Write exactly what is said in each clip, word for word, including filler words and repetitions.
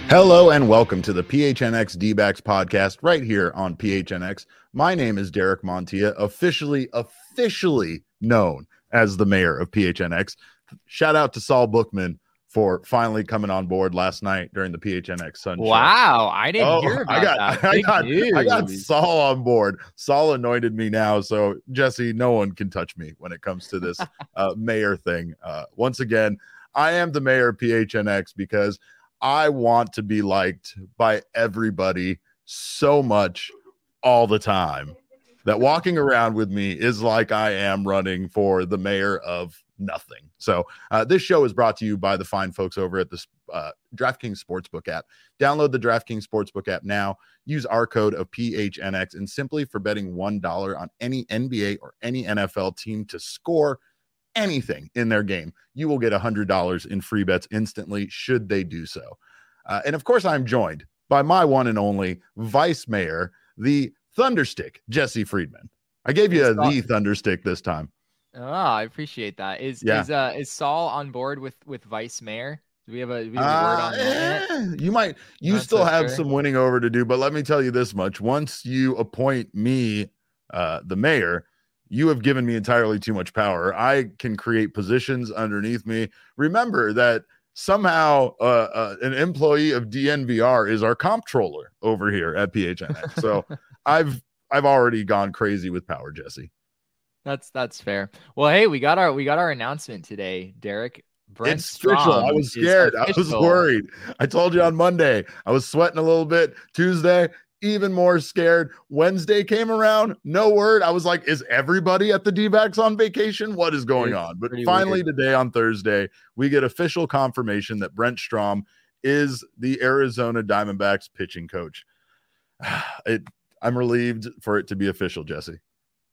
Hello and welcome to the P H N X D-backs podcast right here on P H N X. My name is Derek Montilla, officially, officially known as the mayor of P H N X. Shout out to Saul Bookman for finally coming on board last night during the P H N X Sun Show. Wow, I didn't oh, hear about I got, that. I Big got, news. I got Saul on board. Saul anointed me now, so Jesse, no one can touch me when it comes to this uh, mayor thing. Uh, once again, I am the mayor of P H N X because I want to be liked by everybody so much all the time that walking around with me is like I am running for the mayor of nothing. So uh, this show is brought to you by the fine folks over at the uh, DraftKings Sportsbook app. Download the DraftKings Sportsbook app now. Use our code of P H N X, and simply for betting one dollar on any N B A or any N F L team to score anything in their game, you will get one hundred dollars in free bets instantly should they do so. Uh, and of course, I'm joined by my one and only vice mayor, the Thunderstick, Jesse Friedman. I gave you a, the Thunderstick this time. Oh, I appreciate that. Is yeah. is uh is Saul on board with with vice mayor? Do we have a, do we have a uh, word on that? Eh, you might you Not still so have sure. some winning over to do, but let me tell you this much: once you appoint me uh, the mayor, you have given me entirely too much power. I can create positions underneath me. Remember that somehow uh, uh, an employee of D N V R is our comptroller over here at P H N X. So I've I've already gone crazy with power, Jesse. That's that's fair. Well, hey, we got our we got our announcement today, Derek. Brent it's official. I was scared. I was worried. I told you on Monday. I was sweating a little bit. Tuesday, even more scared. Wednesday came around, no word. I was like, is everybody at the D-backs on vacation? What is going on? But finally weird. Today on Thursday, we get official confirmation that Brent Strom is the Arizona Diamondbacks pitching coach. It, I'm relieved for it to be official, Jesse.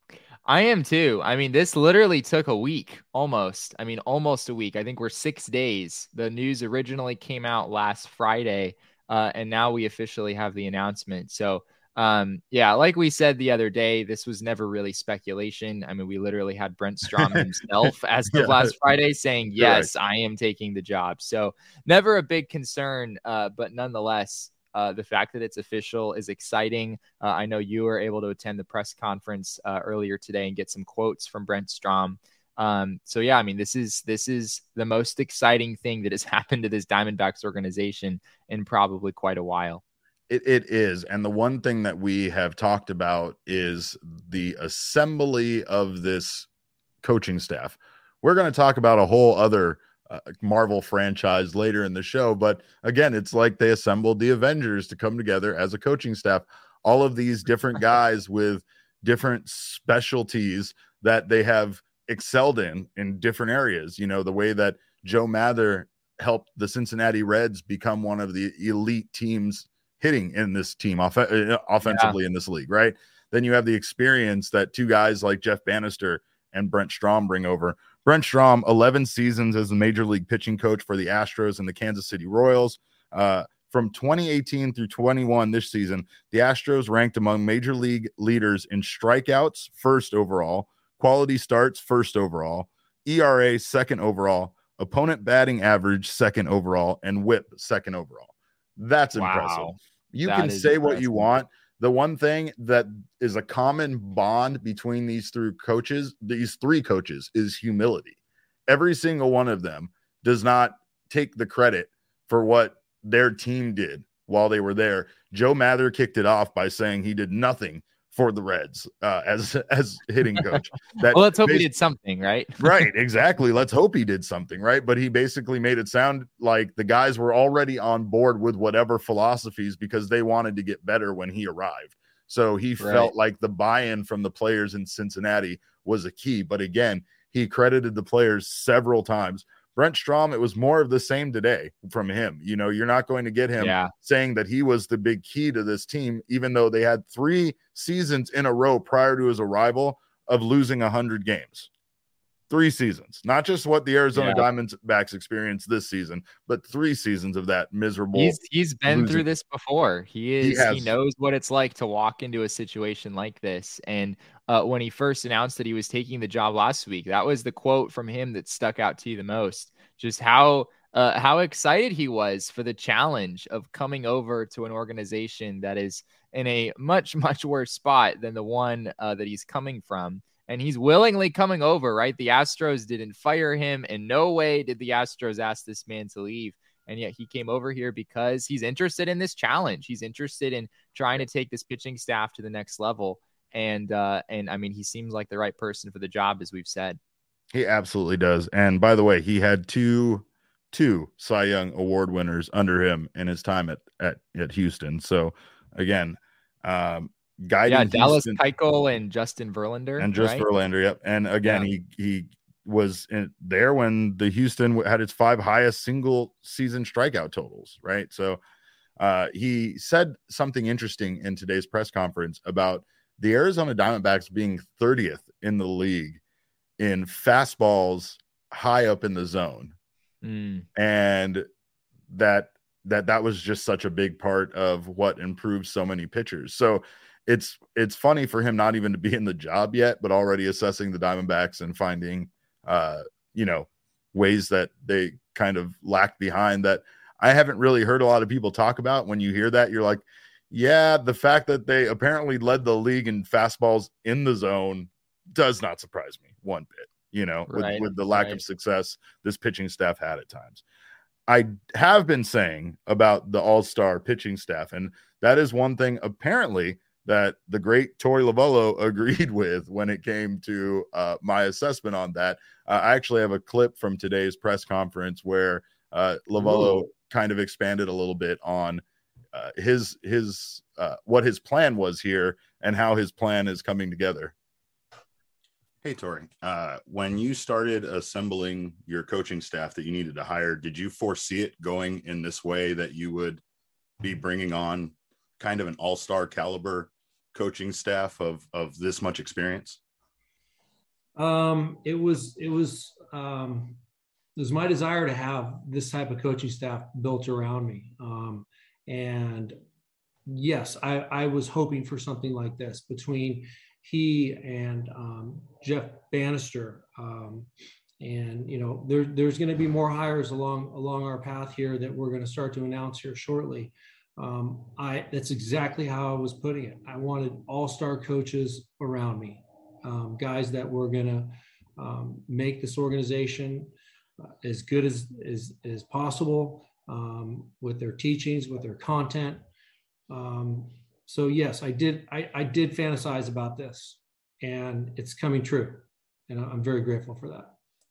I am too. I mean, this literally took a week almost. I mean, almost a week. I think we're six days. The news originally came out last Friday. Uh, and now we officially have the announcement. So, um, yeah, like we said the other day, this was never really speculation. I mean, we literally had Brent Strom himself as of yeah. last Friday saying, yes, right. I am taking the job. So never a big concern, uh, but nonetheless, uh, the fact that it's official is exciting. Uh, I know you were able to attend the press conference uh, earlier today and get some quotes from Brent Strom. Um, so yeah, I mean, this is, this is the most exciting thing that has happened to this Diamondbacks organization in probably quite a while. It, it is. And the one thing that we have talked about is the assembly of this coaching staff. We're going to talk about a whole other uh, Marvel franchise later in the show. But again, it's like they assembled the Avengers to come together as a coaching staff. All of these different guys with different specialties that they have excelled in in different areas. You know, the way that Joe Mather helped the Cincinnati Reds become one of the elite teams hitting in this team off- offensively yeah. in this league, right? Then you have the experience that two guys like Jeff Bannister and Brent Strom bring over. Brent Strom, eleven seasons as the major league pitching coach for the Astros and the Kansas City Royals. Uh, from twenty eighteen through twenty-one this season, the Astros ranked among major league leaders in strikeouts, first overall, quality starts, first overall, E R A, second overall, opponent batting average, second overall, and whip, second overall. That's wow. impressive. You that can say impressive. what you want. The one thing that is a common bond between these three coaches, these three coaches, is humility. Every single one of them does not take the credit for what their team did while they were there. Joe Mather kicked it off by saying he did nothing for the Reds uh, as as hitting coach. That well, let's hope he did something, right? Right, exactly. Let's hope he did something, right? But he basically made it sound like the guys were already on board with whatever philosophies because they wanted to get better when he arrived. So he right. felt like the buy-in from the players in Cincinnati was a key. But again, he credited the players several times. Brent Strom, it was more of the same today from him. You know, you're not going to get him yeah. saying that he was the big key to this team, even though they had three seasons in a row prior to his arrival of losing one hundred games. Three seasons, not just what the Arizona yeah. Diamondbacks experienced this season, but three seasons of that miserable. He's he's been losing. through this before. He is. He, he knows what it's like to walk into a situation like this. And uh, when he first announced that he was taking the job last week, that was the quote from him that stuck out to you the most. Just how uh, how excited he was for the challenge of coming over to an organization that is in a much, much worse spot than the one uh, that he's coming from. And he's willingly coming over, right? The Astros didn't fire him. In no way did the Astros ask this man to leave. And yet he came over here because he's interested in this challenge. He's interested in trying to take this pitching staff to the next level. And, uh, and I mean, he seems like the right person for the job, as we've said. He absolutely does. And by the way, he had two, two Cy Young Award winners under him in his time at, at, at Houston. So again, um, guiding yeah, Dallas Houston, Keuchel and Justin Verlander. And just right? Verlander, yep. And again, yeah. he, he, was in there when the Houston had its five highest single season strikeout totals, right? So uh, he said something interesting in today's press conference about the Arizona Diamondbacks being thirtieth in the league in fastballs high up in the zone. Mm. And that that that was just such a big part of what improved so many pitchers. So it's it's funny for him not even to be in the job yet, but already assessing the Diamondbacks and finding uh, you know, ways that they kind of lacked behind that I haven't really heard a lot of people talk about. When you hear that, you're like, yeah, the fact that they apparently led the league in fastballs in the zone does not surprise me one bit, you know, right, with, with the lack right. of success this pitching staff had at times. I have been saying about the all-star pitching staff, and that is one thing apparently that the great Torey Lovullo agreed with when it came to uh, my assessment on that. Uh, I actually have a clip from today's press conference where uh, Lovullo Ooh. kind of expanded a little bit on uh, his his uh, what his plan was here and how his plan is coming together. Hey, Torey, uh, when you started assembling your coaching staff that you needed to hire, did you foresee it going in this way, that you would be bringing on kind of an all-star caliber coaching staff of of this much experience? Um, it was it was um, it was my desire to have this type of coaching staff built around me, um, and yes, I, I was hoping for something like this between he and um, Jeff Bannister, um, and you know there there's going to be more hires along along our path here that we're going to start to announce here shortly. Um, I, that's exactly how I was putting it. I wanted all-star coaches around me, um, guys that were going to um, make this organization uh, as good as, as, as possible um, with their teachings, with their content. Um, so yes, I did, I, I did fantasize about this, and it's coming true. And I'm very grateful for that.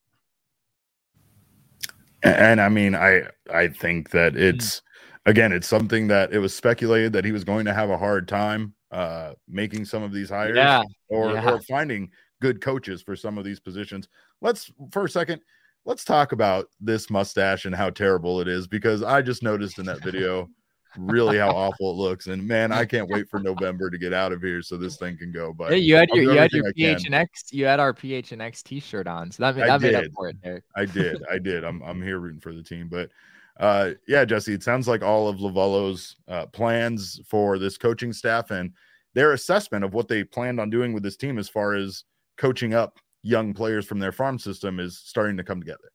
And I mean, I, I think that it's, again, it's something that it was speculated that he was going to have a hard time uh, making some of these hires yeah. Or, yeah. or finding good coaches for some of these positions. Let's, for a second, let's talk about this mustache and how terrible it is, because I just noticed in that video really how awful it looks. And man, I can't wait for November to get out of here so this thing can go. But hey, you had your, you had your P H N X, you had our P H N X t-shirt on. So that, that made up for it, Derek. I did. I did. I'm, I'm here rooting for the team, but Uh, yeah, Jesse, it sounds like all of Lovullo's uh, plans for this coaching staff and their assessment of what they planned on doing with this team as far as coaching up young players from their farm system is starting to come together.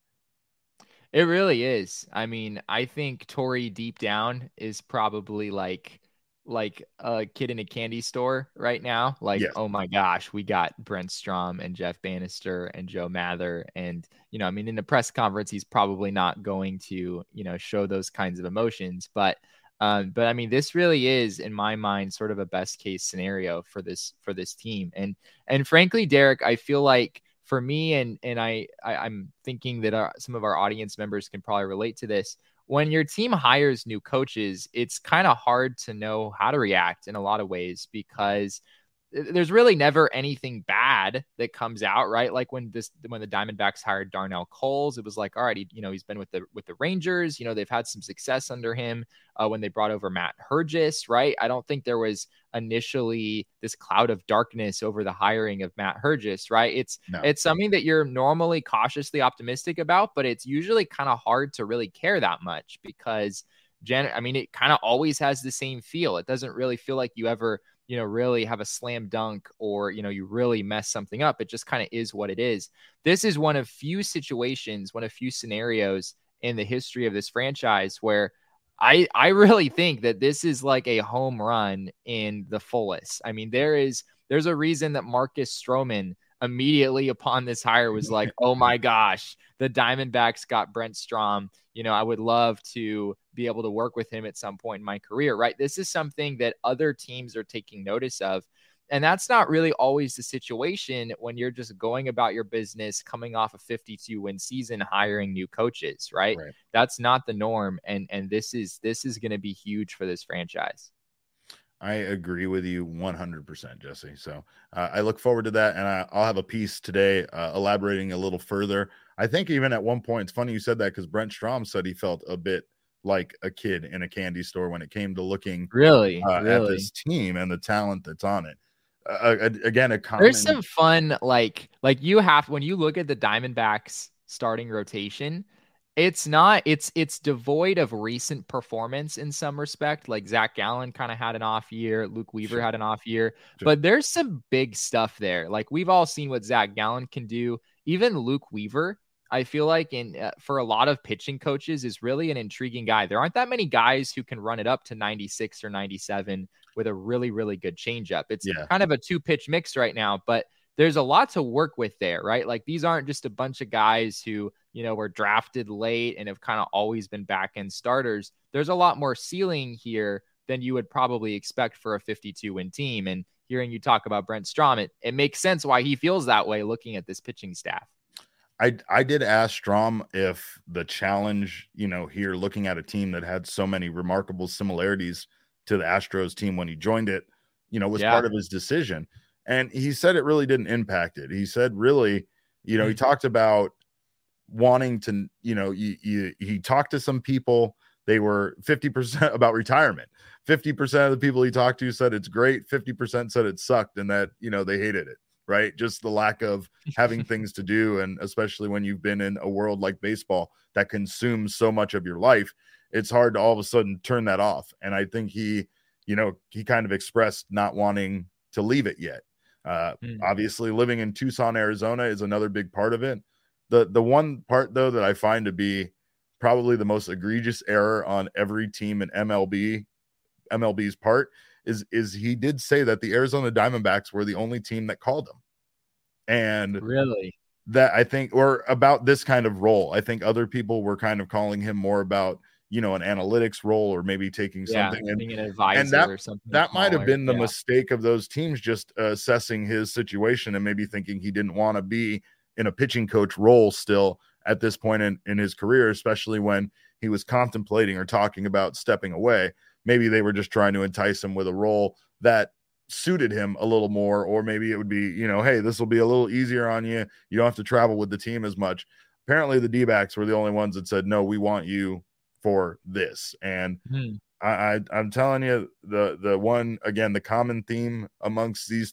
It really is. I mean, I think Torey deep down is probably like like a kid in a candy store right now. Like, yes. Oh my gosh, we got Brent Strom and Jeff Bannister and Joe Mather. And, you know, I mean, in the press conference, he's probably not going to, you know, show those kinds of emotions. But, um, but I mean, this really is, in my mind, sort of a best case scenario for this, for this team. And, and frankly, Derek, I feel like for me, and, and I, I I'm thinking that our, some of our audience members can probably relate to this. When your team hires new coaches, it's kind of hard to know how to react in a lot of ways, because there's really never anything bad that comes out, right? Like when this, when the Diamondbacks hired Darnell Coles, it was like, all right, he, you know, he's been with the, with the Rangers, you know, they've had some success under him uh, when they brought over Matt Hergis, right? I don't think there was initially this cloud of darkness over the hiring of Matt Hergis, right? It's, no. it's something that you're normally cautiously optimistic about, but it's usually kind of hard to really care that much because Jen, I mean, it kind of always has the same feel. It doesn't really feel like you ever, you know, really have a slam dunk or, you know, you really mess something up. It just kind of is what it is. This is one of few situations, one of few scenarios in the history of this franchise where I, I really think that this is like a home run in the fullest. I mean, there is, there's a reason that Marcus Stroman immediately upon this hire was like, oh my gosh, the Diamondbacks got Brent Strom. You know, I would love to be able to work with him at some point in my career, right? This is something that other teams are taking notice of. And that's not really always the situation when you're just going about your business, coming off a fifty-two win season, hiring new coaches, right? Right. That's not the norm. And, and this is, this is going to be huge for this franchise. I agree with you one hundred percent, Jesse. So uh, I look forward to that. And I, I'll have a piece today uh, elaborating a little further. I think even at one point, it's funny you said that because Brent Strom said he felt a bit like a kid in a candy store when it came to looking really, uh, really. at this team and the talent that's on it. Uh, again, a common... There's some fun, like, like you have, when you look at the Diamondbacks starting rotation, it's not, it's, it's devoid of recent performance in some respect. Like Zach Gallen kind of had an off year. Luke Weaver Sure. had an off year, Sure. but there's some big stuff there. Like we've all seen what Zach Gallen can do. Even Luke Weaver, I feel like in uh, for a lot of pitching coaches is really an intriguing guy. There aren't that many guys who can run it up to ninety-six or ninety-seven with a really, really good changeup. It's Yeah. kind of a two pitch mix right now, but there's a lot to work with there, right? Like these aren't just a bunch of guys who, you know, were drafted late and have kind of always been back end starters. There's a lot more ceiling here than you would probably expect for a fifty-two win team. And hearing you talk about Brent Strom, it, it makes sense why he feels that way looking at this pitching staff. I, I did ask Strom if the challenge, you know, here looking at a team that had so many remarkable similarities to the Astros team when he joined it, you know, was Yeah. part of his decision. And he said it really didn't impact it. He said, really, you know, he talked about wanting to, you know, you, you, he talked to some people, they were fifty percent about retirement. fifty percent of the people he talked to said it's great. fifty percent said it sucked and that, you know, they hated it. Right. Just the lack of having things to do. And especially when you've been in a world like baseball that consumes so much of your life, it's hard to all of a sudden turn that off. And I think he, you know, he kind of expressed not wanting to leave it yet. Uh, mm. Obviously living in Tucson, Arizona is another big part of it. The, the one part though, that I find to be probably the most egregious error on every team in M L B, M L B's part is, is he did say that the Arizona Diamondbacks were the only team that called him. And really that I think, or about this kind of role, I think other people were kind of calling him more about, you know, an analytics role or maybe taking yeah, something and, being an advisor and that, or something. That might have been the yeah. mistake of those teams, just uh, assessing his situation and maybe thinking he didn't want to be in a pitching coach role still at this point in, in his career, especially when he was contemplating or talking about stepping away. Maybe they were just trying to entice him with a role that suited him a little more, or maybe it would be, you know, hey, this will be a little easier on you. You don't have to travel with the team as much. Apparently the D-backs were the only ones that said, no, we want you for this. And hmm. I, I, I'm telling you, the, the one, again, the common theme amongst these